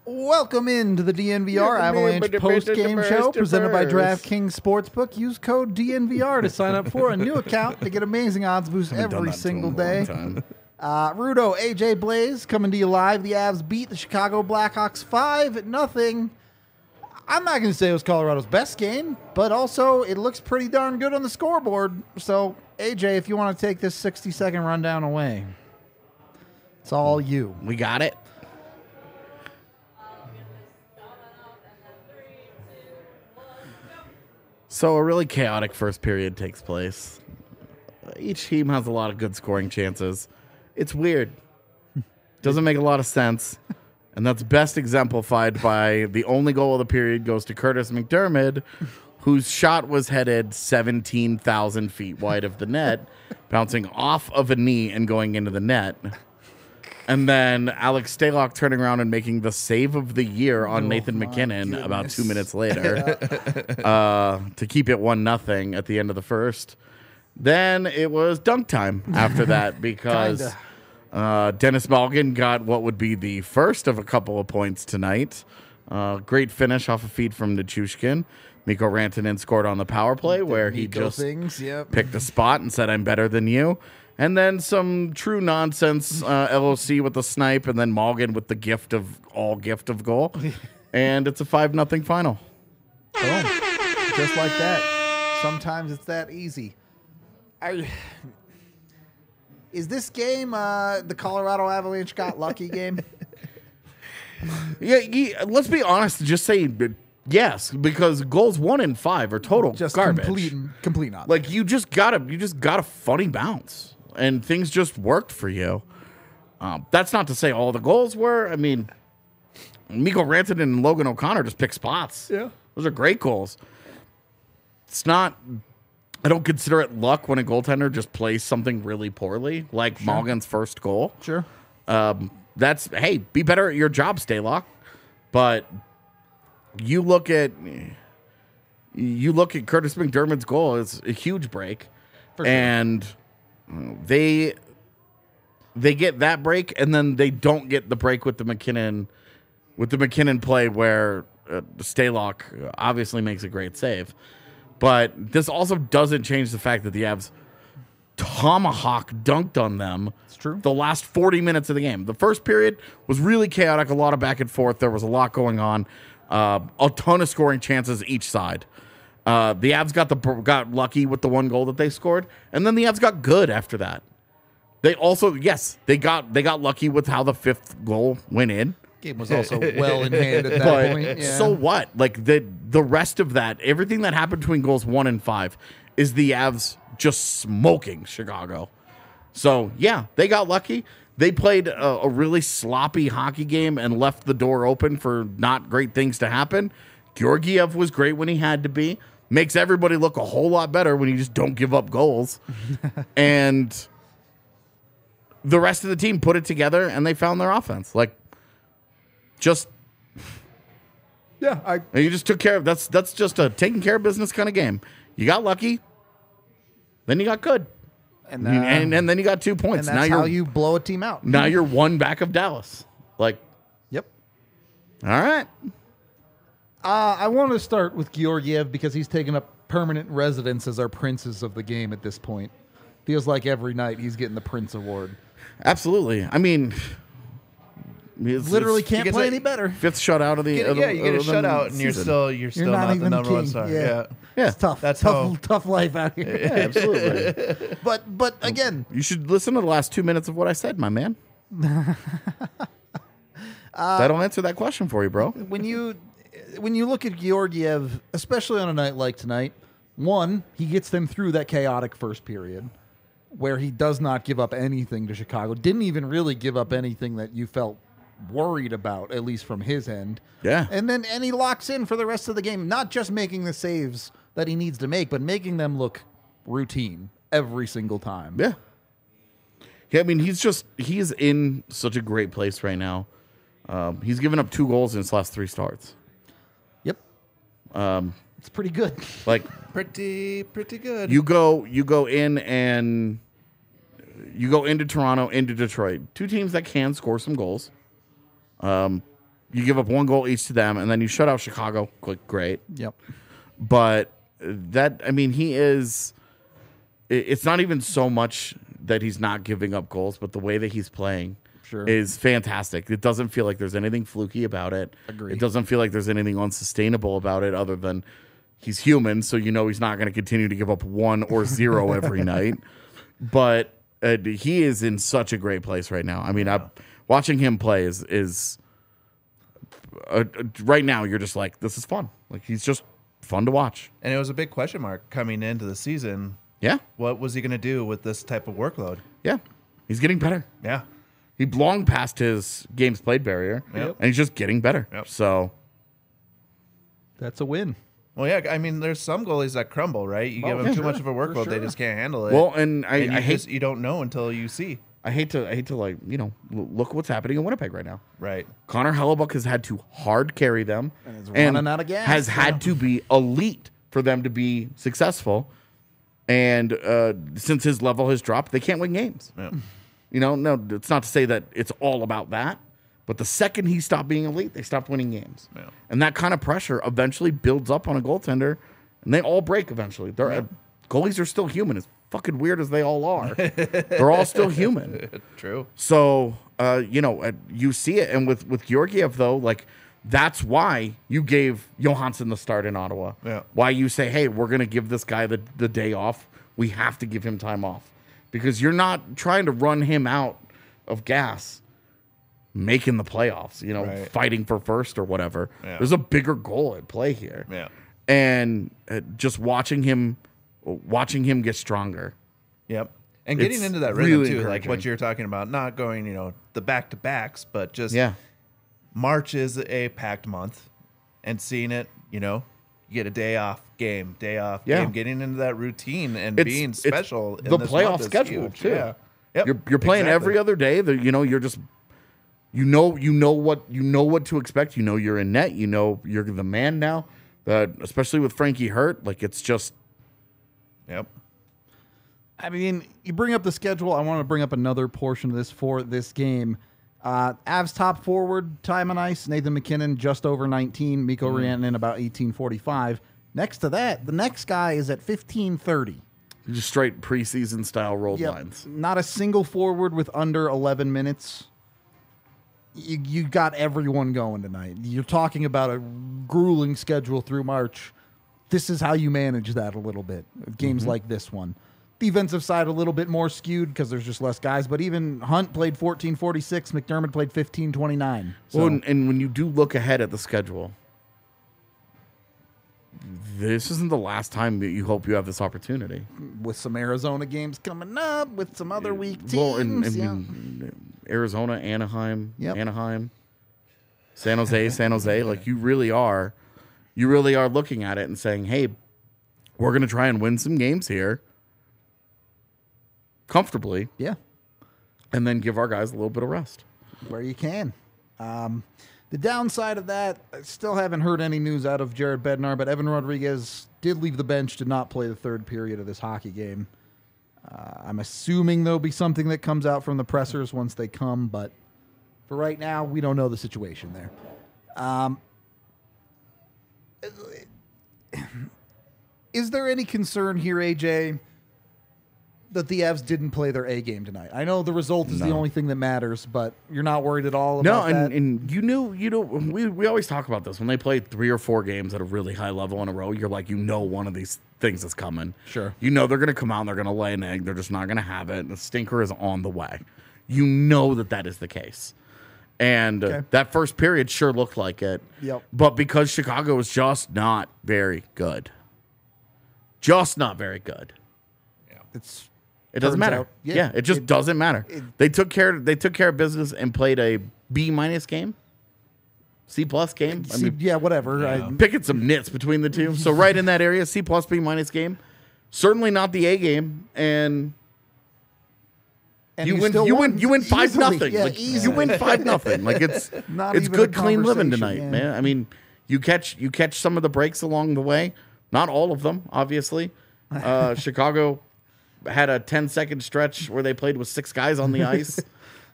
Welcome into the DNVR Avalanche post-game show presented by DraftKings Sportsbook. Use code DNVR to sign up for a new account to get amazing odds boosts every single day. Rudo, AJ Blaze coming to you live. The Avs beat the Chicago Blackhawks 5-0. I'm not going to say it was Colorado's best game, but also it looks pretty darn good on the scoreboard. So, AJ, if you want to take this 60-second rundown away, it's all you. We got it. So a really chaotic first period takes place. Each team has a lot of good scoring chances. It's weird. Doesn't make a lot of sense. And that's best exemplified by the only goal of the period goes to Curtis McDermott, whose shot was headed 17,000 feet wide of the net, bouncing off of a knee and going into the net. And then Alex Stalock turning around and making the save of the year on Nathan McKinnon about 2 minutes later to keep it 1-0 at the end of the first. Then it was dunk time after that because Dennis Malgin got what would be the first of a couple of points tonight. Great finish off a feed from Nichushkin. Mikko Rantanen scored on the power play where he just picked a spot and said, "I'm better than you." And then some true nonsense LOC with the snipe, and then Malgin with the gift of goal. And it's a 5-0 final. Boom. Just like that. Sometimes it's that easy. Is this game the Colorado Avalanche got lucky game? Yeah, let's be honest. Just say yes, because goals 1 and 5 are total just garbage. Complete nonsense. Like you just got a funny bounce, and things just worked for you. That's not to say all the goals were. I mean, Mikko Rantanen and Logan O'Connor just picked spots. Yeah, those are great goals. It's not. I don't consider it luck when a goaltender just plays something really poorly, like Malgin's first goal. Sure. That's, hey, be better at your job, Stalock. But you look at Curtis McDermott's goal, it's a huge break. For sure. And they get that break, and then they don't get the break with the McKinnon play where Stalock obviously makes a great save. But this also doesn't change the fact that the Avs tomahawk dunked on them. It's true. The last 40 minutes of the game. The first period was really chaotic, a lot of back and forth. There was a lot going on, a ton of scoring chances each side. The Avs got lucky with the one goal that they scored, and then the Avs got good after that. They also, they got lucky with how the fifth goal went in. Game was also well in hand at that point. Yeah. So what? Like the rest of that, everything that happened between goals 1 and 5 is the Avs just smoking Chicago. So yeah, they got lucky. They played a really sloppy hockey game and left the door open for not great things to happen. Georgiev was great when he had to be. Makes everybody look a whole lot better when you just don't give up goals. And the rest of the team put it together and they found their offense. You just took care of that's just a taking care of business kind of game. You got lucky, then you got good, and then you got 2 points. And that's how you blow a team out. Now you're one back of Dallas. Yep. All right. I want to start with Georgiev because he's taken up permanent residence as our princes of the game at this point. Feels like every night he's getting the Prince Award. Absolutely. I mean. Literally can't play any better. 5th shutout of the you get a shutout and you're still not the number one star. Yeah. It's tough. That's tough life out here. Yeah, absolutely. But again, you should listen to the last 2 minutes of what I said, my man. That'll answer that question for you, bro. When you look at Georgiev, especially on a night like tonight, one, he gets them through that chaotic first period where he does not give up anything to Chicago. Didn't even really give up anything that you felt worried about, at least from his end. Yeah. And he locks in for the rest of the game, not just making the saves that he needs to make, but making them look routine every single time. Yeah. Yeah, I mean, he's in such a great place right now. He's given up 2 goals in his last 3 starts. Yep. It's pretty good. Pretty good. You go into Toronto, into Detroit. 2 teams that can score some goals. You give up 1 goal each to them, and then you shut out Chicago. Great. Yep. But he is. It's not even so much that he's not giving up goals, but the way that he's playing is fantastic. It doesn't feel like there's anything fluky about it. Agreed. It doesn't feel like there's anything unsustainable about it other than he's human, so he's not going to continue to give up 1 or 0 every night. But he is in such a great place right now. I mean, watching him play is right now you're just like, this is fun. Like, he's just fun to watch. And it was a big question mark coming into the season. Yeah. What was he going to do with this type of workload? Yeah. He's getting better. Yeah. He long past his games played barrier, and he's just getting better. Yep. So that's a win. Well, yeah, I mean, there's some goalies that crumble, right? You give them too much of a workload, they just can't handle it. Well, and I hate you don't know until you see. I hate to like, look what's happening in Winnipeg right now. Right. Connor Hellebuck has had to hard carry them and is running out of gas. Has had to be elite for them to be successful. And since his level has dropped, they can't win games. Yeah. No, it's not to say that it's all about that. But the second he stopped being elite, they stopped winning games. Yeah. And that kind of pressure eventually builds up on a goaltender, and they all break eventually. Goalies are still human, as fucking weird as they all are. They're all still human. True. So, you see it. And with Georgiev, though, like, that's why you gave Johansson the start in Ottawa. Yeah. Why you say, hey, we're going to give this guy the day off. We have to give him time off. Because you're not trying to run him out of gas making the playoffs, right. Fighting for first or whatever. Yeah. There's a bigger goal at play here. Yeah. And just watching him get stronger. Yep. And getting into that rhythm, really too, like what you're talking about, not going, the back-to-backs, but just March is a packed month, and seeing it, you get a day off game, game, getting into that routine and being special. The playoff schedule, huge. too. Yeah. Yep. You're playing every other day. You're just... You know what to expect. You're in net. You're the man now. Especially with Frankie hurt, like it's just. Yep. I mean, you bring up the schedule. I want to bring up another portion of this for this game. Avs top forward time on ice: Nathan McKinnon just over 19, Mikko Rantanen about 18:45. Next to that, the next guy is at 15:30. Just straight preseason style rolled lines. Not a single forward with under 11 minutes. You got everyone going tonight. You're talking about a grueling schedule through March. This is how you manage that a little bit. Games like this one. Defensive side a little bit more skewed because there's just less guys. But even Hunt played 14:46. McDermott played 15:29. So. Well, and when you do look ahead at the schedule, this isn't the last time that you hope you have this opportunity. With some Arizona games coming up, with some other weak teams. Well, and Arizona, Anaheim, San Jose. Like you really are looking at it and saying, hey, we're going to try and win some games here comfortably. Yeah. And then give our guys a little bit of rest. Where you can. The downside of that, I still haven't heard any news out of Jared Bednar, but Evan Rodriguez did leave the bench, did not play the third period of this hockey game. I'm assuming there'll be something that comes out from the pressers once they come, but for right now, we don't know the situation there. Is there any concern here, AJ, that the Avs didn't play their A game tonight? I know the result is the only thing that matters, but you're not worried at all about that? No, and we always talk about this. When they play 3 or 4 games at a really high level in a row, you're like, one of these things is coming. Sure. They're going to come out and they're going to lay an egg. They're just not going to have it. The stinker is on the way. That is the case. And that first period sure looked like it. Yep. But because Chicago was just not very good. Just not very good. Yeah. It doesn't matter. It just doesn't matter. They took care of business and played a B- game. C+ game. Whatever. Yeah. Picking some nits between the two. So right in that area, C+ B- game. Certainly not the A game. And you win 5-0. Yeah, you win 5-0. Like it's good clean living tonight, man. I mean, you catch some of the breaks along the way. Not all of them, obviously. Chicago had a 10-second stretch where they played with 6 guys on the ice.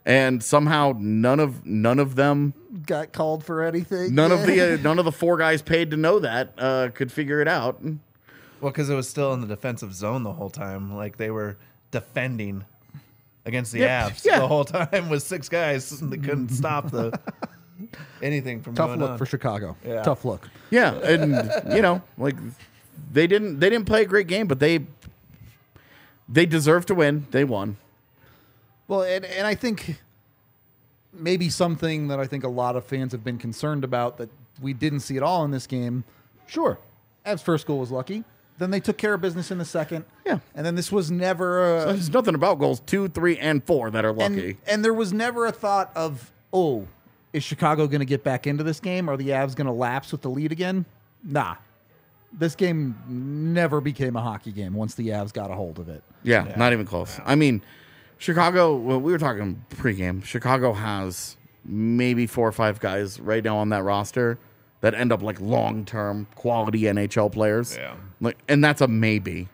and somehow none of them got called for anything. None of the 4 guys paid to know that could figure it out. Well, because it was still in the defensive zone the whole time. Like they were defending against the Avs the whole time with 6 guys. They couldn't stop anything from Tough going look on. for Chicago. Yeah. Tough look. Yeah, and like they didn't play a great game, but they deserved to win. They won. Well, and I think maybe something that I think a lot of fans have been concerned about that we didn't see at all in this game. Sure, Avs' first goal was lucky. Then they took care of business in the second. Yeah. And then this was never So there's nothing about goals 2, 3, and 4 that are lucky. And there was never a thought of, oh, is Chicago going to get back into this game? Are the Avs going to lapse with the lead again? Nah. This game never became a hockey game once the Avs got a hold of it. Yeah, not even close. I mean, Chicago, well, we were talking pregame. Chicago has maybe 4 or 5 guys right now on that roster that end up like long-term quality NHL players. Yeah. Like, and that's a maybe.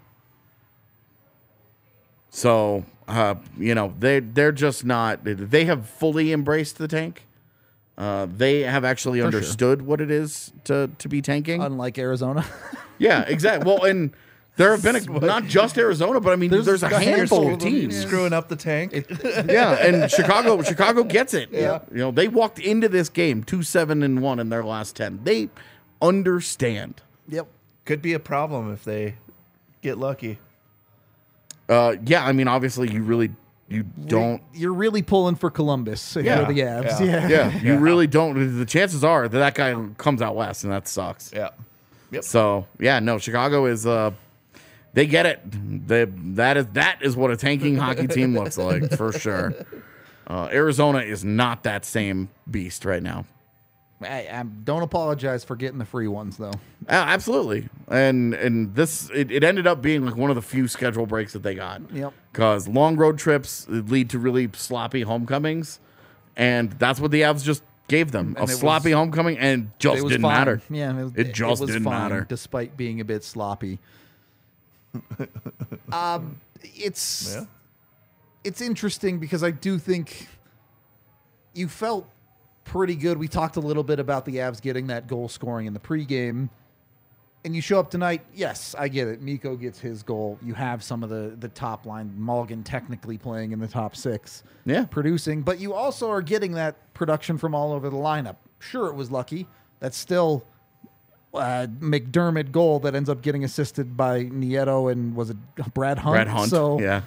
So, they're just not, they have fully embraced the tank. They have actually understood what it is to be tanking. Unlike Arizona. Yeah, exactly. Well, and there have been not just Arizona, but I mean, there's a handful of teams screwing up the tank. Yeah, and Chicago gets it. Yeah. They walked into this game 2-7-1 in their last 10. They understand. Yep. Could be a problem if they get lucky. Yeah, I mean, obviously, you don't. You're really pulling for Columbus if you're the Avs. Yeah, you really don't. The chances are that guy comes out west, and that sucks. Yeah. Yep. So no, Chicago is. They get it. That is what a tanking hockey team looks like for sure. Arizona is not that same beast right now. I don't apologize for getting the free ones though. Absolutely, and this it ended up being like one of the few schedule breaks that they got. Yep. Because long road trips lead to really sloppy homecomings, and that's what the Avs just gave them, a sloppy homecoming, and just didn't matter. Yeah, it just didn't matter, despite being a bit sloppy. It's interesting because I do think you felt pretty good. We talked a little bit about the Avs getting that goal scoring in the pregame. And you show up tonight, yes, I get it. Mikko gets his goal. You have some of the top line. Mulligan technically playing in the top 6. Yeah. Producing. But you also are getting that production from all over the lineup. Sure, it was lucky. That's still McDermott goal that ends up getting assisted by Nieto and was it Brad Hunt? Brad Hunt, so yeah.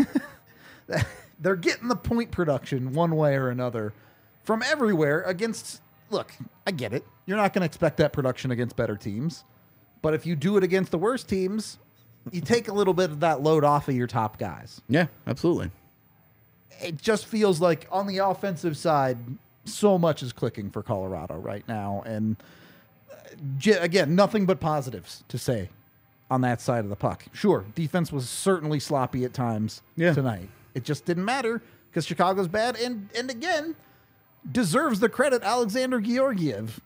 They're getting the point production one way or another from everywhere against, look, I get it. You're not going to expect that production against better teams. But if you do it against the worst teams, you take a little bit of that load off of your top guys. Yeah, absolutely. It just feels like on the offensive side, so much is clicking for Colorado right now. And again, nothing but positives to say on that side of the puck. Sure, defense was certainly sloppy at times tonight. It just didn't matter because Chicago's bad. And again, deserves the credit, Alexander Georgiev.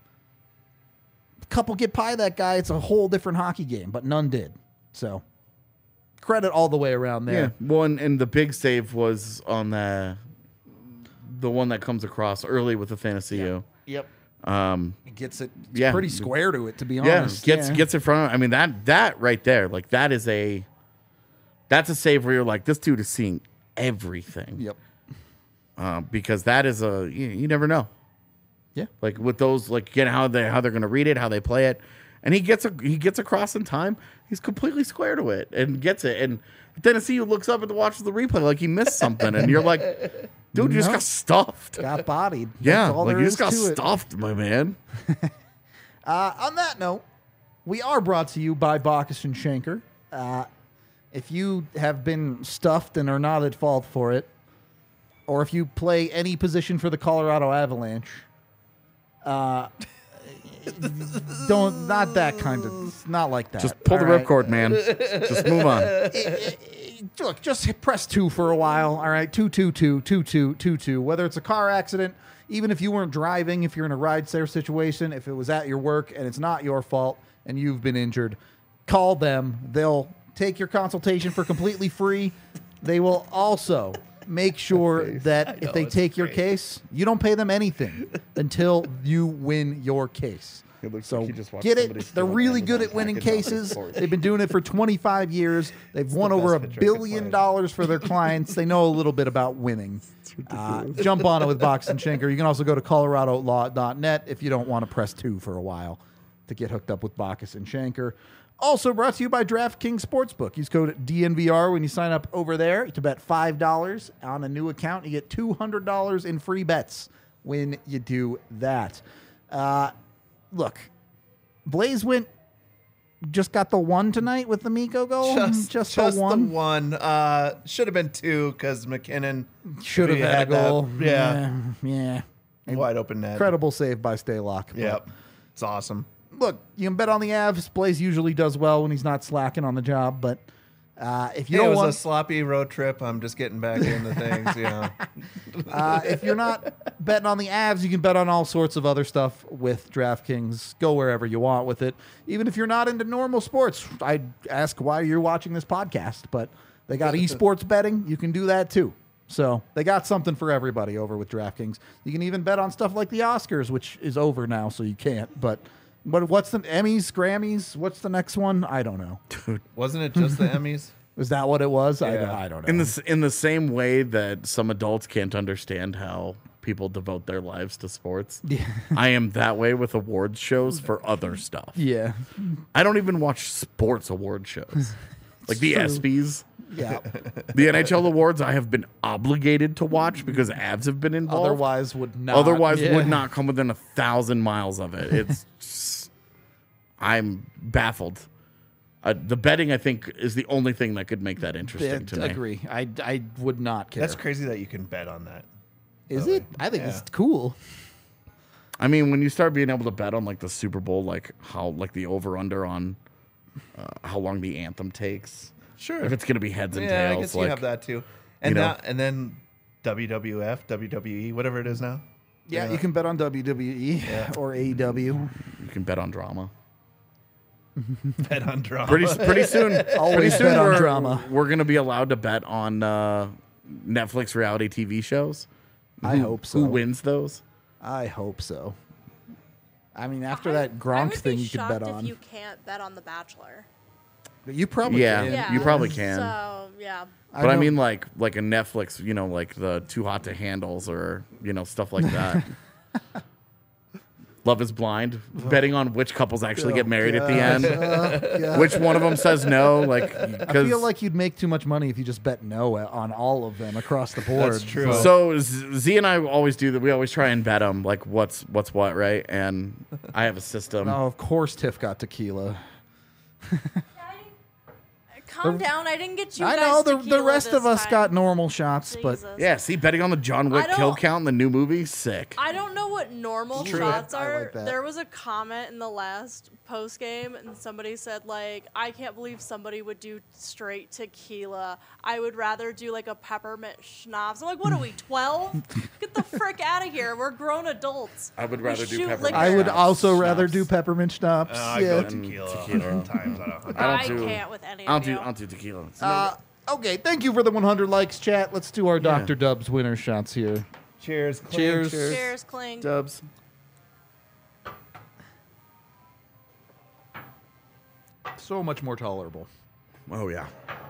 Couple get by that guy, it's a whole different hockey game, but none did. So credit all the way around there. Yeah. Well, and the big save was on the one that comes across early with the fantasy. Yep. It gets it pretty square to it, to be honest. Gets in front of. I mean that right there, like that's a save where you're like, this dude is seeing everything. Yep. Because that is you never know. Yeah. Like with those, like again, how they're going to read it, how they play it, and he gets across in time. He's completely square to it and gets it. And Tennessee looks up and watches the replay like he missed something, and you're like, dude, you just got stuffed. Got bodied. Yeah, like you just got stuffed, my man. On that note, we are brought to you by Bacchus and Schenker. If you have been stuffed and are not at fault for it, or if you play any position for the Colorado Avalanche, not that kind of, not like that. Just pull the ripcord, man. Just move on. Look, just press 2 for a while. All right, 222. Whether it's a car accident, even if you weren't driving, if you're in a ride-share situation, if it was at your work and it's not your fault and you've been injured, call them. They'll take your consultation for completely free. They will also make sure that if they take your case, you don't pay them anything until you win your case. So get it. They're really good at winning cases. They've been doing it for 25 years. They've won over $1 billion for their clients. They know a little bit about winning. Jump on it with Bachus and Schenker. You can also go to coloradolaw.net if you don't want to press 2 for a while to get hooked up with Bachus and Schenker. Also brought to you by DraftKings Sportsbook. Use code DNVR when you sign up over there to bet $5 on a new account. You get $200 in free bets when you do that. Look, Blaze just got the 1 tonight with the Miko goal. Just the one. The one. Should have been 2 because McKinnon should have had a goal. Yeah. Wide open net. Incredible save by Staylock. Yep. It's awesome. Look, you can bet on the Avs. Blaze usually does well when he's not slacking on the job, but if you don't want... It was a sloppy road trip. I'm just getting back into things, if you're not betting on the Avs, you can bet on all sorts of other stuff with DraftKings. Go wherever you want with it. Even if you're not into normal sports, I'd ask why you're watching this podcast, but they got esports betting. You can do that too. So they got something for everybody over with DraftKings. You can even bet on stuff like the Oscars, which is over now, so you can't, but what's the Emmys, Grammys? What's the next one? I don't know. Dude, wasn't it just the Emmys? Is that what it was? Yeah. I don't know. In the same way that some adults can't understand how people devote their lives to sports, I am that way with awards shows for other stuff. Yeah. I don't even watch sports award shows. Like the ESPYs. Yeah. The NHL awards I have been obligated to watch because Avs have been involved. Otherwise would not come within 1,000 miles of it. It's just, I'm baffled. The betting, I think, is the only thing that could make that interesting to me. I agree. I would not care. That's crazy that you can bet on that. Is it? I think it's cool. I mean, when you start being able to bet on like the Super Bowl, like how like the over under on how long the anthem takes. Sure. If it's going to be heads and tails. Yeah, I guess you have that too. And and then WWF, WWE, whatever it is now. Yeah, you can bet on WWE or AEW. You can bet on drama. Bet on drama. Pretty soon. Always bet on drama. We're going to be allowed to bet on Netflix reality TV shows. I hope so. Who wins those? I hope so. I mean, after that Gronk thing, you could bet on. If you can't bet on The Bachelor. You probably can. You probably can. So, yeah. But I mean, like a Netflix, like the Too Hot to Handles or, stuff like that. Love is Blind, betting on which couples actually get married at the end. Which one of them says no. I feel like you'd make too much money if you just bet no on all of them across the board. That's true. So Z and I always do that. We always try and bet them, like what's what, right? And I have a system. Oh, of course Tiff got tequila. Calm down. I didn't get you I guys know the rest of us got normal shots, Jesus. but yeah, see, betting on the John Wick kill count in the new movie, sick. I don't know what normal shots are. Like that. There was a comment in the last post game, and somebody said like, "I can't believe somebody would do straight tequila. I would rather do like a peppermint schnapps." I'm like, "What are we, 12? Get the frick out of here. We're grown adults." I would rather do peppermint. liquor. I would also rather do peppermint schnapps. I go tequila times out of 100. I can't with any of you. I'll do tequila. Okay, thank you for the 100 likes, chat. Let's do our Dr. Dubs winner shots here. Cheers. Cheers. Cheers, Kling. Dubs. So much more tolerable. Oh, yeah.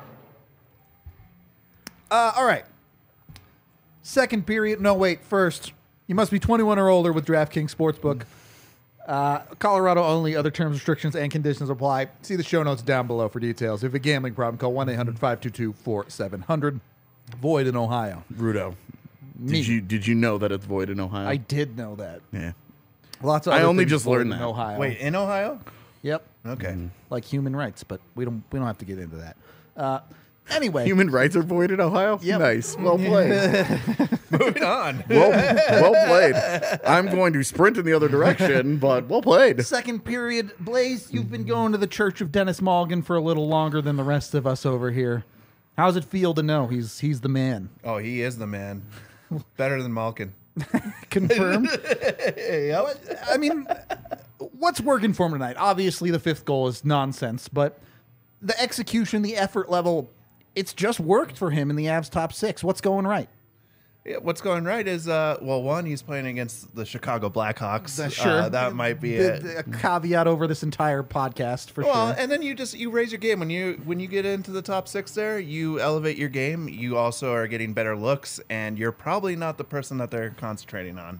All right. Second period. No, wait. First, you must be 21 or older with DraftKings Sportsbook. Colorado only. Other terms, restrictions, and conditions apply. See the show notes down below for details. If you have a gambling problem, call 1-800-522-4700. Void in Ohio. Rudo. Did you know that it's void in Ohio? I did know that. Yeah. Lots of. I other only things just void learned in that. Ohio. Wait, in Ohio? Yep. Okay. Like human rights, but we don't have to get into that. Anyway, Human rights are void in Ohio? Yep. Nice. Well played. Moving on. Well played. I'm going to sprint in the other direction, but well played. Second period. Blaze, you've been going to the Church of Dennis Malgin for a little longer than the rest of us over here. How's it feel to know he's the man? Oh, he is the man. Better than Malkin. Confirmed? I mean, what's working for him tonight? Obviously, the fifth goal is nonsense, but the execution, the effort level, it's just worked for him in the Avs top 6. What's going right? Yeah, what's going right is, one, he's playing against the Chicago Blackhawks. Sure. That might be a caveat over this entire podcast for sure. And then you raise your game. When you get into the top 6 there, you elevate your game. You also are getting better looks, and you're probably not the person that they're concentrating on.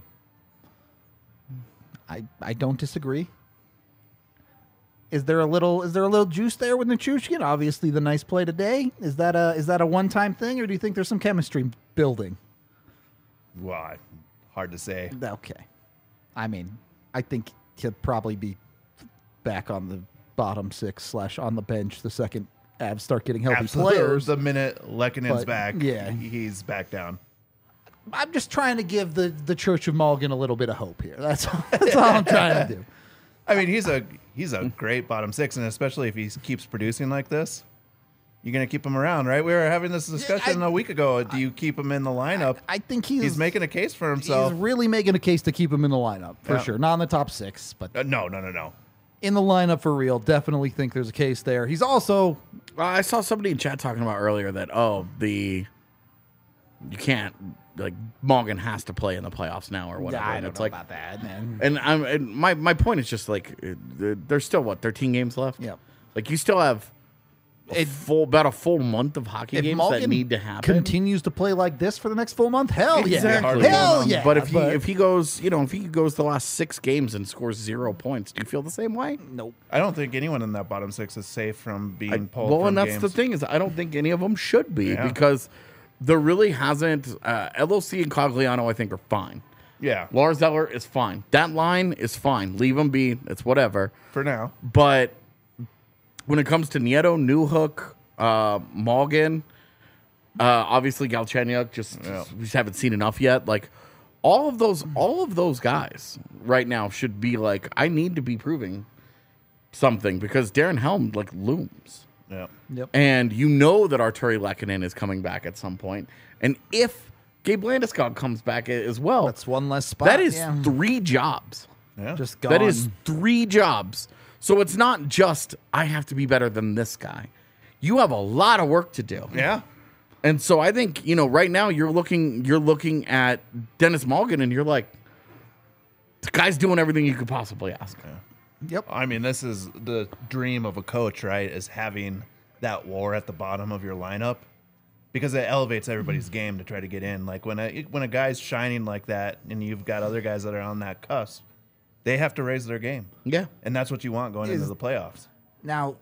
I don't disagree. Is there a little juice there with Nichushkin? Obviously, the nice play today. Is that a one-time thing, or do you think there's some chemistry building? Well, hard to say. Okay. I mean, I think he'll probably be back on the bottom 6 / on the bench the second Avs start getting healthy players. The minute Lekkonen's back, yeah, he's back down. I'm just trying to give the Church of Malgin a little bit of hope here. That's all I'm trying to do. I mean, he's a great bottom 6, and especially if he keeps producing like this, you're going to keep him around, right? We were having this discussion a week ago. Do you keep him in the lineup? I think he's making a case for himself. He's really making a case to keep him in the lineup, for sure. Not in the top 6, but... No. In the lineup for real. Definitely think there's a case there. He's also... I saw somebody in chat talking about earlier that, you can't... Like, Malgin has to play in the playoffs now or whatever. Yeah, I don't know about that, man. And my point is just, like, there's still, 13 games left? Yeah. Like, you still have... about a full month of hockey games Malgin that need to happen. Continues to play like this for the next full month? Hell yeah. Exactly. Hell yeah. But if he goes the last 6 games and scores 0 points, do you feel the same way? Nope. I don't think anyone in that bottom 6 is safe from being pulled Well, from and that's games. the thing is I don't think any of them should be because there really hasn't LOC and Cogliano I think are fine. Yeah. Lars Eller is fine. That line is fine. Leave them be. It's whatever. For now. But when it comes to Nieto, Newhook, Malgin, obviously Galchenyuk, we just haven't seen enough yet. Like all of those guys right now should be like, I need to be proving something because Darren Helm looms. Yeah. Yep. And you know that Arturi Lehkonen is coming back at some point. And if Gabe Landeskog comes back as well, that's one less spot. That is 3 jobs. Yeah. Just gone. That is 3 jobs. So it's not just I have to be better than this guy. You have a lot of work to do. Yeah. And so I think, right now you're looking at Dennis Malgin and you're like, the guy's doing everything you could possibly ask. Yeah. Yep. I mean, this is the dream of a coach, right? Is having that war at the bottom of your lineup because it elevates everybody's game to try to get in. Like when a guy's shining like that and you've got other guys that are on that cusp, they have to raise their game. Yeah. And that's what you want going into the playoffs. Now,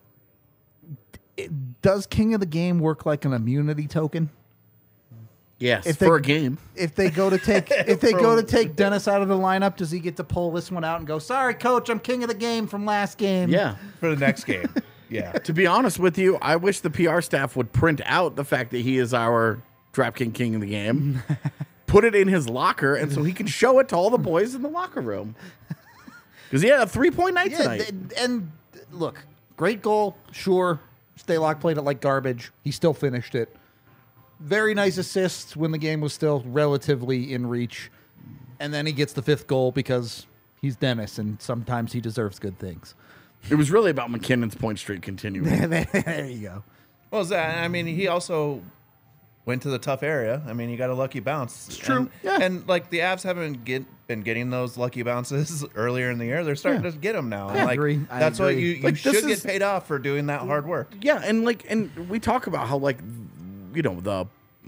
does King of the Game work like an immunity token? Yes, for a game. If they go to take Dennis out of the lineup, does he get to pull this one out and go, "Sorry, coach, I'm King of the Game from last game"? Yeah, for the next game. Yeah. To be honest with you, I wish the PR staff would print out the fact that he is our DraftKings King of the Game, put it in his locker, and so he can show it to all the boys in the locker room. Because he had a 3-point night tonight. And look, great goal, sure. Stalock played it like garbage. He still finished it. Very nice assists when the game was still relatively in reach. And then he gets the 5th goal because he's Dennis, and sometimes he deserves good things. It was really about McKinnon's point streak continuing. There you go. Well, he also went to the tough area. I mean, he got a lucky bounce. It's true. And the Avs haven't been getting those lucky bounces earlier in the year. They're starting to get them now. I agree. That's why you should get paid off for doing that hard work. Yeah, and we talk about how the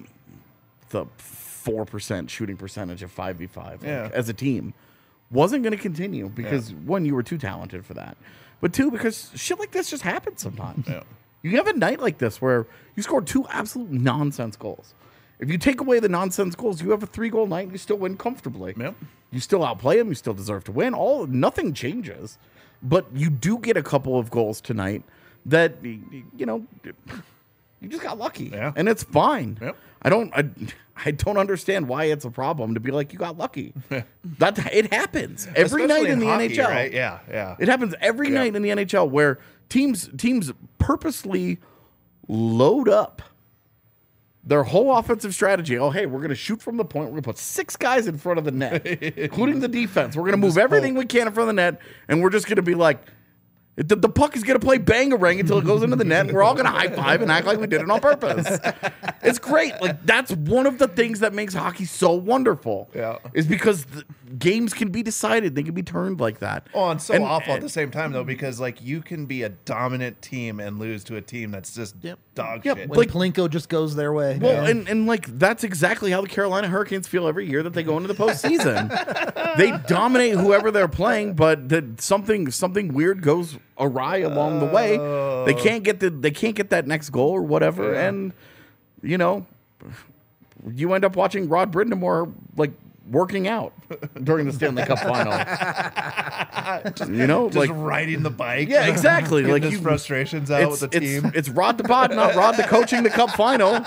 4% shooting percentage of 5v5 as a team wasn't going to continue because one, you were too talented for that, but 2, because shit like this just happens sometimes. Yeah. You have a night like this where you score 2 absolute nonsense goals. If you take away the nonsense goals, you have a 3-goal night and you still win comfortably. Yep. You still outplay them. You still deserve to win. Nothing changes, but you do get a couple of goals tonight that you just got lucky, and it's fine. Yep. I don't understand why it's a problem to be like you got lucky. That it happens every Especially night in the hockey, NHL. right? Yeah. It happens every night in the NHL where teams purposely load up their whole offensive strategy. Oh, hey, we're going to shoot from the point. We're going to put 6 guys in front of the net, including the defense. We're going to move everything we can in front of the net, and we're just going to be like, The puck is going to play bang-a-rang until it goes into the net. We're all going to high-five and act like we did it on purpose. It's great. Like, that's one of the things that makes hockey so wonderful. Yeah. Is because games can be decided. They can be turned like that. Oh, and so awful at the same time, though, because, like, you can be a dominant team and lose to a team that's just dog shit. When Plinko just goes their way. Well, and like, that's exactly how the Carolina Hurricanes feel every year that they go into the postseason. They dominate whoever they're playing, but something weird goes awry along the way. They can't get that next goal or whatever, and you know, you end up watching Rod Brindamore like working out during the Stanley Cup final. You know, just like riding the bike. Yeah, exactly. Like his frustrations out with the team. It's Rod the Bod, not Rod the coaching the Cup final.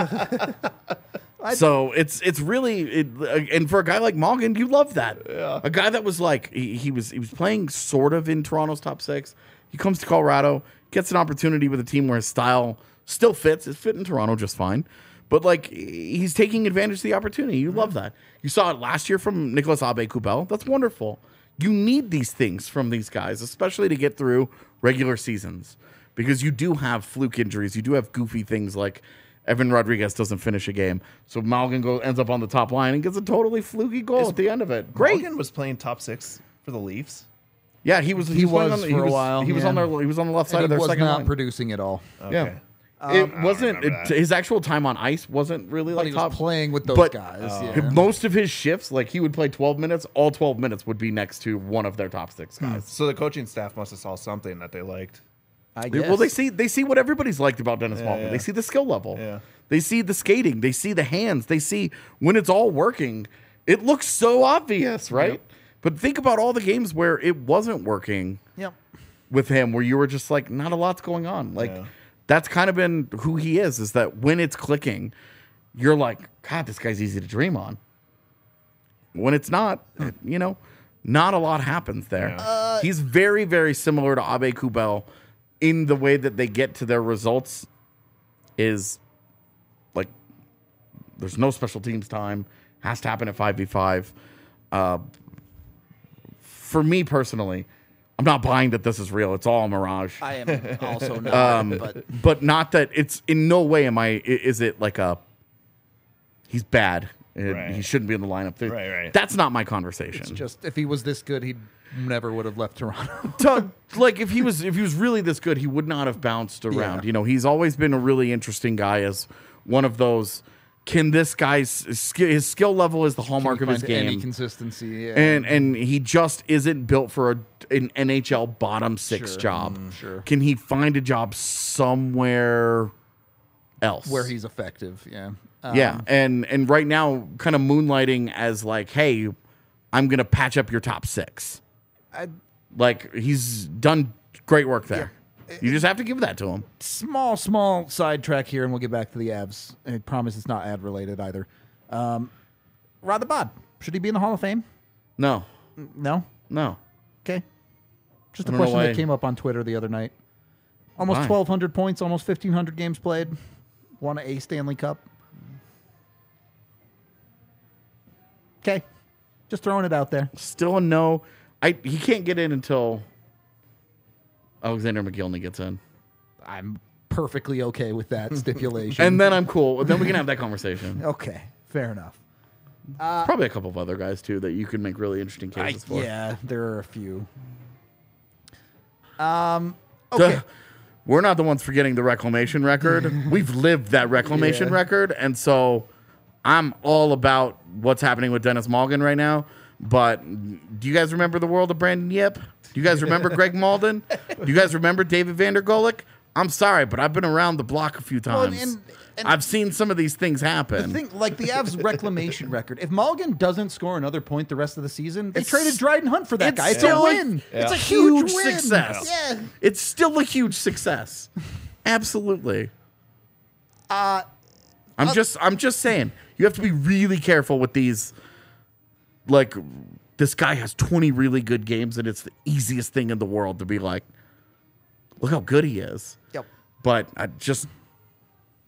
So it's really and for a guy like Malgin, you love that. Yeah. A guy that was like he was playing sort of in Toronto's top six. He comes to Colorado, gets an opportunity with a team where his style still fits. It's fit in Toronto just fine. But like he's taking advantage of the opportunity. You love that. You saw it last year from Nicolas Aube-Kubel. That's wonderful. You need these things from these guys, especially to get through regular seasons, because you do have fluke injuries. You do have goofy things like Evan Rodriguez doesn't finish a game, so Malgin ends up on the top line and gets a totally fluky goal at the end of it. Great. Malgin was playing top six for the Leafs. Yeah, he was for a while. He was on the left side of their second line. He was not producing at all. Okay. Yeah. It wasn't his actual time on ice wasn't really like he top. was playing with those guys. Most of his shifts, like he would play 12 minutes. All 12 minutes would be next to one of their top six guys. So the coaching staff must have saw something that they liked. I guess. Well, they see what everybody's liked about Dennis Malgin. Yeah. They see the skill level. Yeah. They see the skating. They see the hands. They see when it's all working. It looks so obvious, right? Yep. But think about all the games where it wasn't working. Yep. With him, where you were just like, not a lot's going on. Like that's kind of been who he is that when it's clicking, you're like, God, this guy's easy to dream on. When it's not, you know, not a lot happens there. He's very, very similar to Aube-Kubel in the way that they get to their results is like there's no special teams time, has to happen at 5v5. For me personally, I'm not buying that this is real. It's all a mirage. I am also not. But not that it's in no way is it like he's bad. Right. He shouldn't be in the lineup. Right. That's not my conversation. It's just if he was this good, he never would have left Toronto. Like if he was really this good, he would not have bounced around. Yeah. You know, he's always been a really interesting guy as one of those. Can this guy's his skill level is the hallmark of his game? Any consistency, yeah. And he just isn't built for an NHL bottom six job. Sure. Can he find a job somewhere else where he's effective? Yeah. Yeah, and right now, kind of moonlighting as like, hey, I'm gonna patch up your top six. Like he's done great work there. Yeah. You just have to give that to him. Small sidetrack here, and we'll get back to the Avs. I promise it's not ad related either. Rod the Bod, should he be in the Hall of Fame? No. No. Okay. Just a I don't question know why. that came up on Twitter the other night. Almost Why? 1,200 points, almost 1,500 games played. Won a Stanley Cup. Okay. Just throwing it out there. Still a no. He can't get in until Alexander McGillney gets in. I'm perfectly okay with that stipulation. And then I'm cool. Then we can have that conversation. Okay. Fair enough. Probably a couple of other guys, too, that you could make really interesting cases for. Yeah, there are a few. Okay. We're not the ones forgetting the reclamation record. We've lived that reclamation record. And so I'm all about what's happening with Dennis Malgin right now. But do you guys remember the world of Brandon Yip? Do you guys remember Greg Malden? Do you guys remember David Vandergolik? I'm sorry, but I've been around the block a few times. and I've seen some of these things happen. The thing, like the Avs reclamation record, if Malgin doesn't score another point the rest of the season, they traded Dryden Hunt for that guy. It's a win. It's a huge win. Success. Yeah. It's still a huge success. Absolutely. I'm just saying, you have to be really careful with these. Like, this guy has 20 really good games, and it's the easiest thing in the world to be like, look how good he is. Yep. But I'm just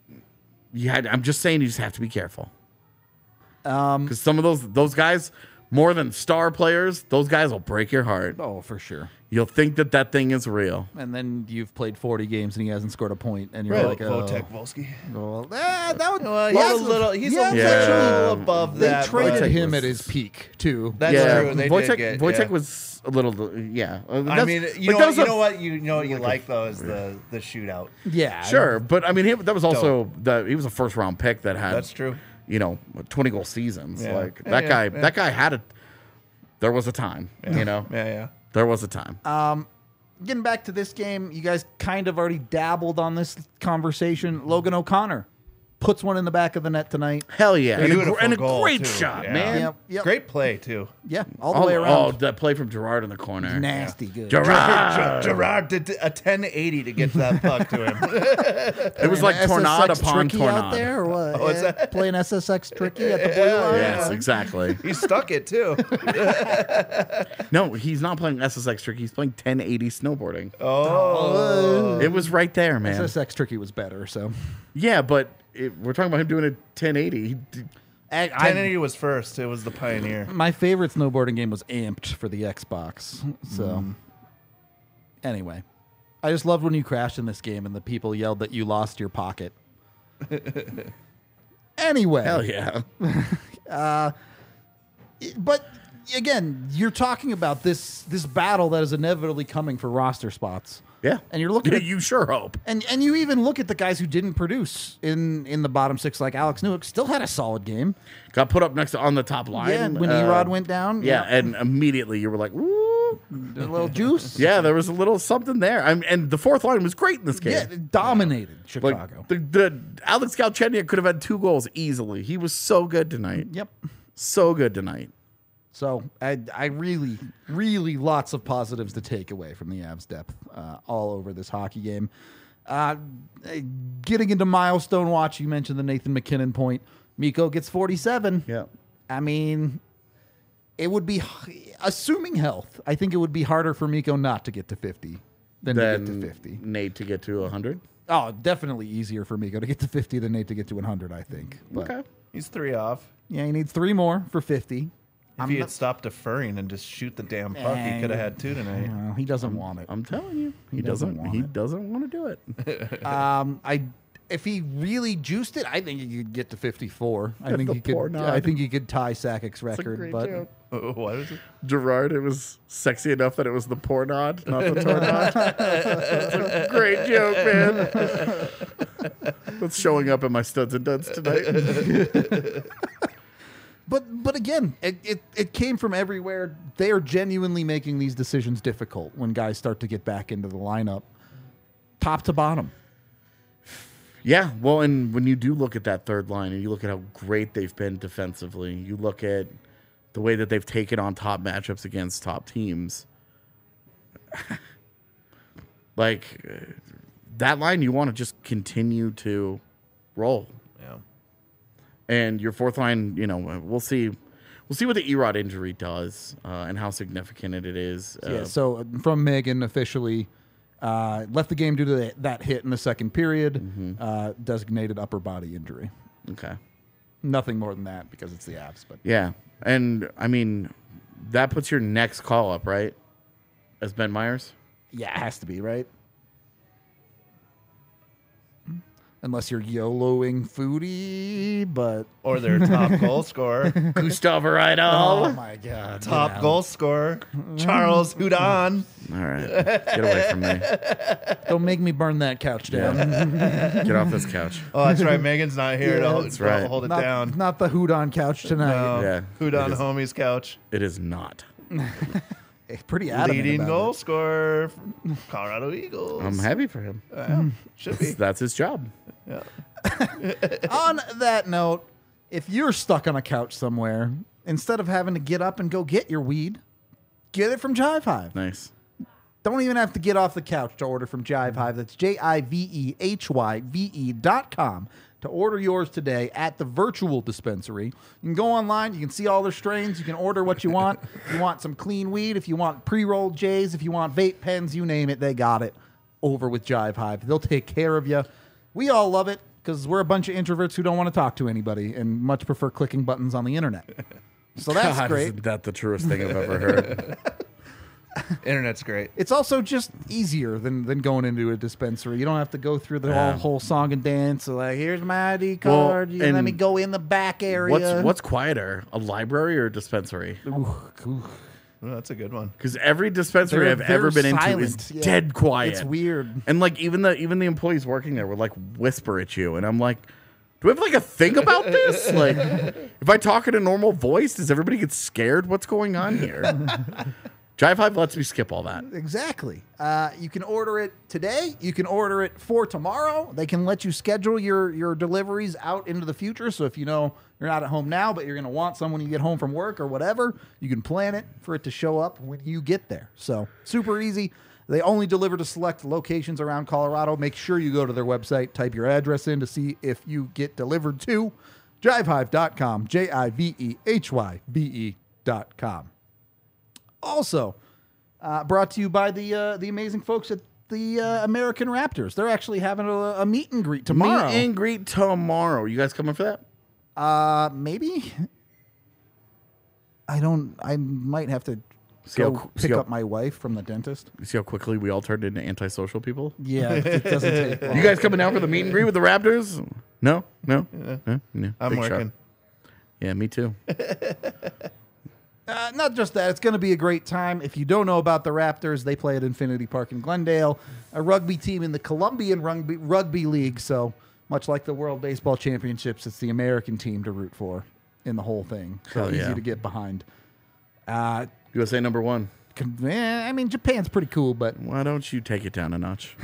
saying you just have to be careful. Because some of those guys more than star players, those guys will break your heart. Oh, for sure. You'll think that thing is real. And then you've played 40 games and he hasn't scored a point, and you're Right. like, Wojtek Wolski. well, that would. He's a little above They that. traded but- him at his peak too. That's true. They Wojtek, did get, Wojtek was a little, yeah. I mean, you know what you like though is the shootout. Yeah, Sure, but I mean, that was also he was a first round pick that had. That's true. 20 goal seasons. Yeah. Like Yeah, that guy had a. There was a time. Yeah. There was a time. Getting back to this game, you guys kind of already dabbled on this conversation. Logan O'Connor puts one in the back of the net tonight. Hell yeah, Beautiful and a goal, great too. shot, Yeah. man. Yep. Great play too. Yeah, all the way around. that play from Gerard in the corner. Nasty good. Gerard did a 1080 to get that puck to him. It was like tornado SSX upon tricky out tornado. there, or what? what's that? Playing SSX tricky at the blue line. Yes, exactly. He stuck it too. No, he's not playing SSX trick. He's playing 1080 snowboarding. Oh, It was right there, man. SSX tricky was better, so. Yeah, but we're talking about him doing a 1080. 1080 was first. It was the Pioneer. My favorite snowboarding game was Amped for the Xbox. So, anyway, I just loved when you crashed in this game and the people yelled that you lost your pocket. Anyway, Hell yeah. but again, you're talking about this battle that is inevitably coming for roster spots. Yeah. And you're looking at You sure hope. and you even look at the guys who didn't produce in the bottom six, like Alex Newhook, still had a solid game. Got put up next on the top line. Yeah, when Erod went down. Yeah, and immediately you were like, "Ooh." a little juice. Yeah, there was a little something there. And the fourth line was great in this game. Yeah, it dominated Chicago. Like the Alex Galchenyuk could have had 2 goals easily. He was so good tonight. Yep. So good tonight. So I really, really lots of positives to take away from the Avs depth all over this hockey game. Getting into milestone watch, you mentioned the Nathan MacKinnon point. Mikko gets 47. Yeah. I mean, it would be, assuming health, I think it would be harder for Mikko not to get to 50 than to get to 50. Nate to get to 100. Oh, definitely easier for Mikko to get to 50 than Nate to get to 100, I think. But, Okay. He's 3 off. yeah, he needs 3 more for 50. If he had stopped deferring and just shoot the damn puck, he could have had 2 tonight. He doesn't want it. I'm telling you. He doesn't doesn't want he it. doesn't want to do it. If he really juiced it, I think he could get to 54. I Get think the he could. poor nod. I think he could tie Sakic's record. great But joke. What is it? Gerard, it was sexy enough that it was the poor nod, not the tornado. It's a great joke, man. That's showing up in my studs and duds tonight. but again, it came from everywhere. They are genuinely making these decisions difficult when guys start to get back into the lineup, top to bottom. Yeah, well, and when you do look at that third line and you look at how great they've been defensively, you look at the way that they've taken on top matchups against top teams. That line, you want to just continue to roll. Yeah. And your fourth line, we'll see what the Erod injury does and how significant it is. Yeah. So from Megan officially. Left the game due to that hit in the second period. Designated upper body injury. Okay. Nothing more than that because it's the Avs. But Yeah, and I mean that puts your next call up, right? As Ben Myers. yeah, it has to be right. Unless you're YOLOing Foodie, but Or their top goal scorer. Gustav Rydahl. oh my god, Top goal scorer. Charles Houdon. All right, get away from me. Don't make me burn that couch down. Get off this couch. Oh, that's right. Megan's not here to hold, that's right. hold it not, down. not the Houdon couch tonight. No. Yeah, Houdon it is. homie's couch. It is not. Pretty adamant Leading about goal it. scorer from Colorado Eagles. I'm happy for him. Should be. That's his job. Yeah. On that note, if you're stuck on a couch somewhere, instead of having to get up and go get your weed, get it from Jive Hive. Nice. Don't even have to get off the couch to order from Jive Hive. That's JIVEHYVE.com to order yours today at the virtual dispensary. You can go online. You can see all their strains. You can order what you want. If you want some clean weed, if you want pre-rolled J's, if you want vape pens, you name it, they got it over with Jive Hive. They'll take care of you. We all love it because we're a bunch of introverts who don't want to talk to anybody and much prefer clicking buttons on the internet. So that's God, great. Isn't that the truest thing I've ever heard? Internet's great. It's also just easier than going into a dispensary. You don't have to go through the whole song and dance. So like, here's my ID card. Well, let me go in the back area. What's quieter, a library or a dispensary? Ooh. Oh, that's a good one. Because every dispensary I've ever been into is dead quiet. It's weird. And like even the employees working there would like whisper at you, and I'm like, do we have like a thing about this? Like, if I talk in a normal voice, does everybody get scared? What's going on here? Jive Hive lets me skip all that. Exactly. You can order it today. You can order it for tomorrow. They can let you schedule your deliveries out into the future. So if you know you're not at home now, but you're going to want some when you get home from work or whatever, you can plan it for it to show up when you get there. So super easy. They only deliver to select locations around Colorado. Make sure you go to their website, type your address in to see if you get delivered to jivehive.com, JIVEHYBE.com. Also, brought to you by the amazing folks at the American Raptors. They're actually having a meet and greet tomorrow. Meet and greet tomorrow. You guys coming for that? Maybe. I might have to pick up my wife from the dentist. You see how quickly we all turned into antisocial people? Yeah, it doesn't take long. You guys coming out for the meet and greet with the Raptors? No. I'm Big working. shot. Yeah, me too. Not just that. It's going to be a great time. If you don't know about the Raptors, they play at Infinity Park in Glendale, a rugby team in the Colombian Rugby League. So much like the World Baseball Championships, it's the American team to root for in the whole thing. So easy to get behind. USA number one. I mean, Japan's pretty cool, but Why don't you take it down a notch?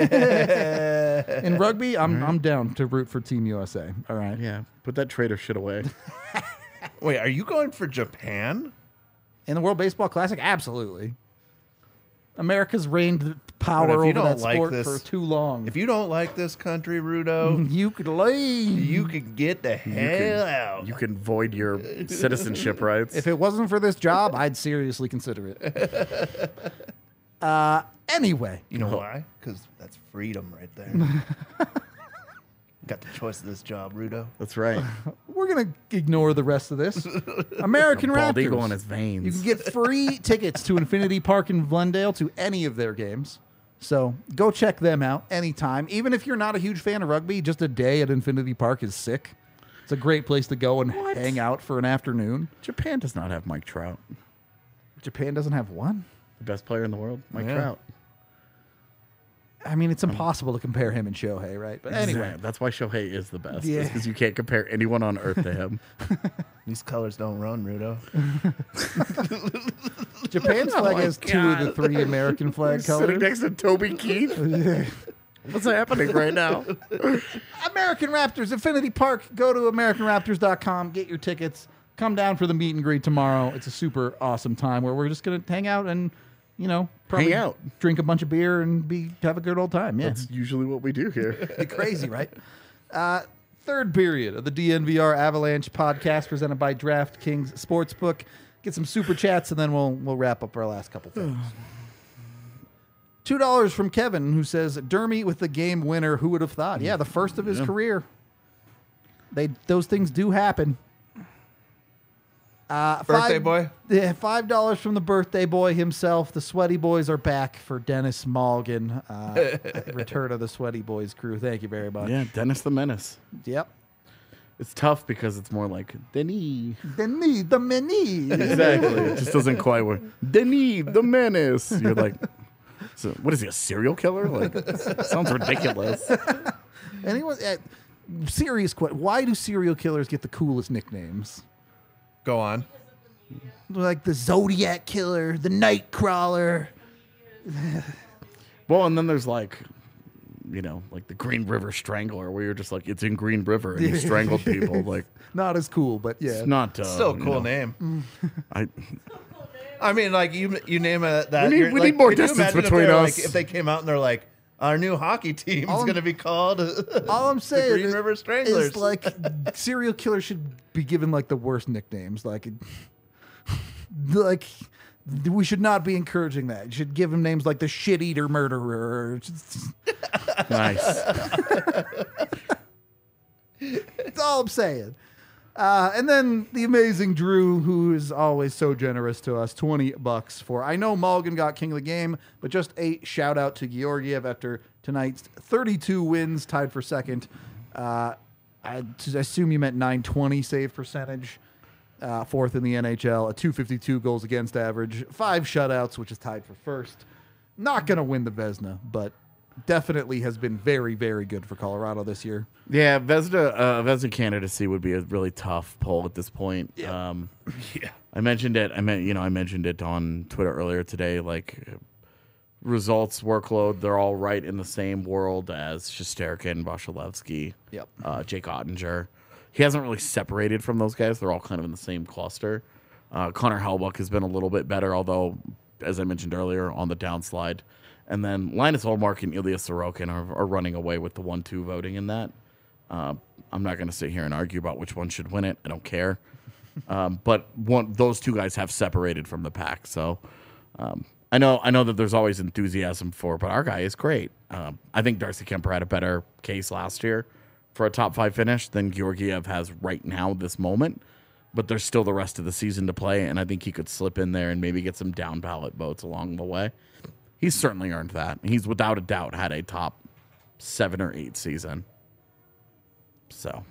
in rugby, I'm down to root for Team USA. All right. Yeah, put that traitor shit away. Wait, are you going for Japan? In the World Baseball Classic, absolutely. America's reigned power over that sport for too long. If you don't like this country, Rudo, you could leave. You could get the hell out. You can void your citizenship rights. If it wasn't for this job, I'd seriously consider it. Anyway. You know why? Because that's freedom right there. Got the choice of this job, Rudo. That's right. We're going to ignore the rest of this. American Raptors. Bald eagle in his veins. You can get free tickets to Infinity Park in Glendale to any of their games. So go check them out anytime. Even if you're not a huge fan of rugby, just a day at Infinity Park is sick. It's a great place to go and hang out for an afternoon. Japan does not have Mike Trout. Japan doesn't have one? The best player in the world, Mike Trout. I mean, it's impossible to compare him and Shohei, right? But anyway. That's why Shohei is the best. Yeah. Because you can't compare anyone on earth to him. These colors don't run, Rudo. Japan's flag has two of the three American flag colors. Sitting next to Toby Keith. What's happening right now? American Raptors, Infinity Park. Go to AmericanRaptors.com. Get your tickets. Come down for the meet and greet tomorrow. It's a super awesome time where we're just going to hang out and, probably hang out, drink a bunch of beer, and have a good old time. Yeah, that's usually what we do here. Crazy, right? Third period of the DNVR Avalanche podcast presented by DraftKings Sportsbook. Get some super chats, and then we'll wrap up our last couple things. $2 from Kevin, who says, Dermy with the game winner. Who would have thought? Yeah, the first of his career. Those things do happen. Birthday boy? Yeah, $5 from the birthday boy himself. The Sweaty Boys are back for Dennis Malgin. Return of the Sweaty Boys crew. Thank you very much. Yeah, Dennis the Menace. Yep. It's tough because it's more like Denis. Denis the Menace. Exactly. It just doesn't quite work. Denis the Menace. You're like, so what is he, a serial killer? Like, sounds ridiculous. Anyone? Serious question. Why do serial killers get the coolest nicknames? Go on. Like the Zodiac Killer, the Nightcrawler. Well, and then there's like the Green River Strangler, where you're just like, it's in Green River and you strangled people. Like, not as cool, but yeah, it's not still a cool name. I mean, like you name that. We need more distance between us. If they came out and they're like, our new hockey team is going to be called. All I'm saying the Green River Stranglers. Is like serial killers should be given like the worst nicknames. Like we should not be encouraging that. You should give him names like the Shit Eater Murderer. Nice. That's all I'm saying. And then the amazing Drew, who is always so generous to us, $20 for. I know Mulligan got king of the game, but just a shout out to Georgiev after tonight's 32 wins, tied for second. I assume you meant 920 save percentage. Fourth in the NHL, a 252 goals against average, 5 shutouts, which is tied for first. Not going to win the Vezina, but definitely has been very, very good for Colorado this year. Yeah, Vezina candidacy would be a really tough poll at this point. Yeah. I mentioned it. I mentioned it on Twitter earlier today. Like results, workload, they're all right in the same world as Shesterkin, Vasilevsky, Jake Ottinger. He hasn't really separated from those guys. They're all kind of in the same cluster. Connor Hellebuyck has been a little bit better, although, as I mentioned earlier, on the downslide. And then Linus Ullmark and Ilya Sorokin are running away with the 1-2 voting in that. I'm not going to sit here and argue about which one should win it. I don't care. But those two guys have separated from the pack. So I know that there's always enthusiasm for it, but our guy is great. I think Darcy Kemper had a better case last year for a top 5 finish than Georgiev has right now, this moment. But there's still the rest of the season to play, and I think he could slip in there and maybe get some down ballot votes along the way. He's certainly earned that. He's without a doubt had a top 7 or 8 season. So,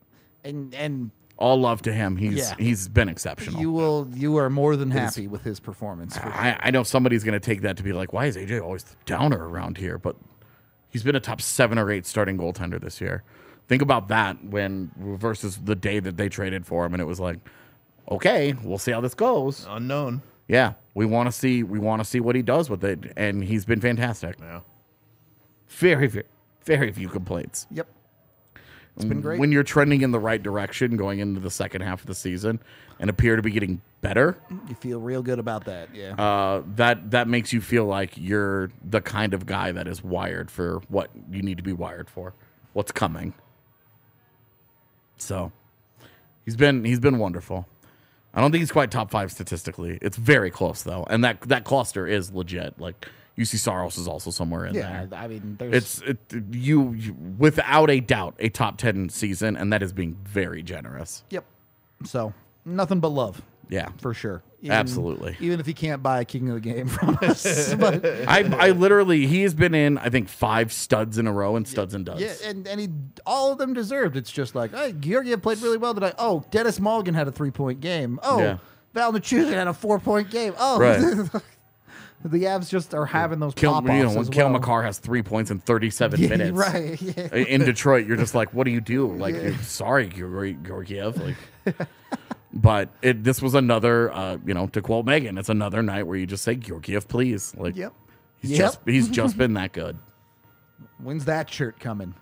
and all love to him. He's been exceptional. You are more than happy with his performance. I know somebody's going to take that to be like, why is AJ always the downer around here? But he's been a top 7 or 8 starting goaltender this year. Think about that versus the day that they traded for him, and it was like, okay, we'll see how this goes. Unknown. Yeah, we want to see what he does with it, and he's been fantastic. Yeah. Very, very, very few complaints. Yep. It's been great. When you're trending in the right direction going into the second half of the season and appear to be getting better, you feel real good about that. Yeah. That makes you feel like you're the kind of guy that is wired for what you need to be wired for, what's coming. So he's been wonderful. I don't think he's quite top 5 statistically. It's very close though, and that cluster is legit. Like UC Saros is also somewhere in there. Yeah, I mean, you without a doubt a top 10 season, and that is being very generous. Yep. So nothing but love. Yeah, for sure. Absolutely. Even if he can't buy a king of the game from us. But I literally, he has been in, I think, 5 studs in a row and studs and duds. Yeah, and he all of them deserved. It's just like, hey, Georgiev played really well tonight. Oh, Dennis Mulligan had a 3-point game. Oh, Val Nichushkin had a 4-point game. Oh, right. The Avs just are having those pop-offs when Cale Makar has 3 points in 37 minutes. Right. Yeah. In Detroit, you're just like, what do you do? Like, sorry, Georgiev. Like, but this was another, to quote Megan, it's another night where you just say, Georgiev, please. Like, he's just been that good. When's that shirt coming?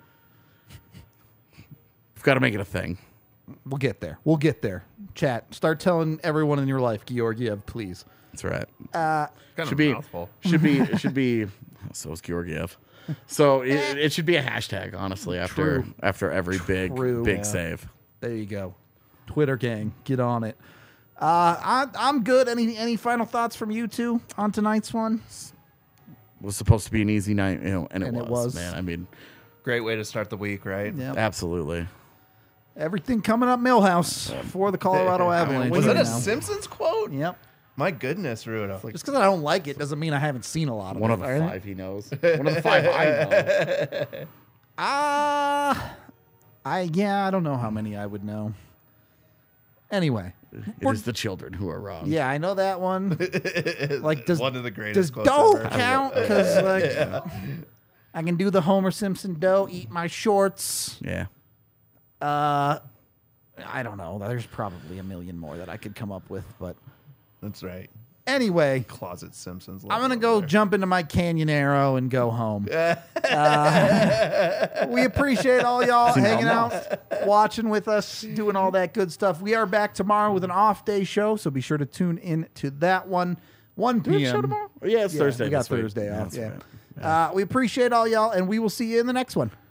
We've got to make it a thing. We'll get there. Chat. Start telling everyone in your life, Georgiev, please. That's right. Should be mouthful. Should be. So is Georgiev. So it should be a hashtag, honestly, after every big save. There you go. Twitter gang, get on it. I'm good. Any final thoughts from you two on tonight's one? It was supposed to be an easy night, and it was. Man, I mean, great way to start the week, right? Yep. Absolutely. Everything coming up Millhouse for the Colorado Avalanche. Was that a Simpsons quote? Yep. My goodness, Rudo. Just because I don't like it doesn't mean I haven't seen a lot of it. One of the 5 he knows. One of the 5 I know. I don't know how many I would know. Anyway. It is the children who are wrong. Yeah, I know that one. Like, does one of the greatest does dough count? Because I can do the Homer Simpson dough, eat my shorts. Yeah. I don't know. There's probably a million more that I could come up with, but that's right. Anyway, Closet Simpsons. I'm gonna go jump into my Canyonero and go home. We appreciate all y'all hanging out, watching with us, doing all that good stuff. We are back tomorrow with an off-day show, so be sure to tune in to that one. 1 p.m. Do we have a show tomorrow? Yeah, it's Thursday. We got Thursday off. Yeah. We appreciate all y'all, and we will see you in the next one.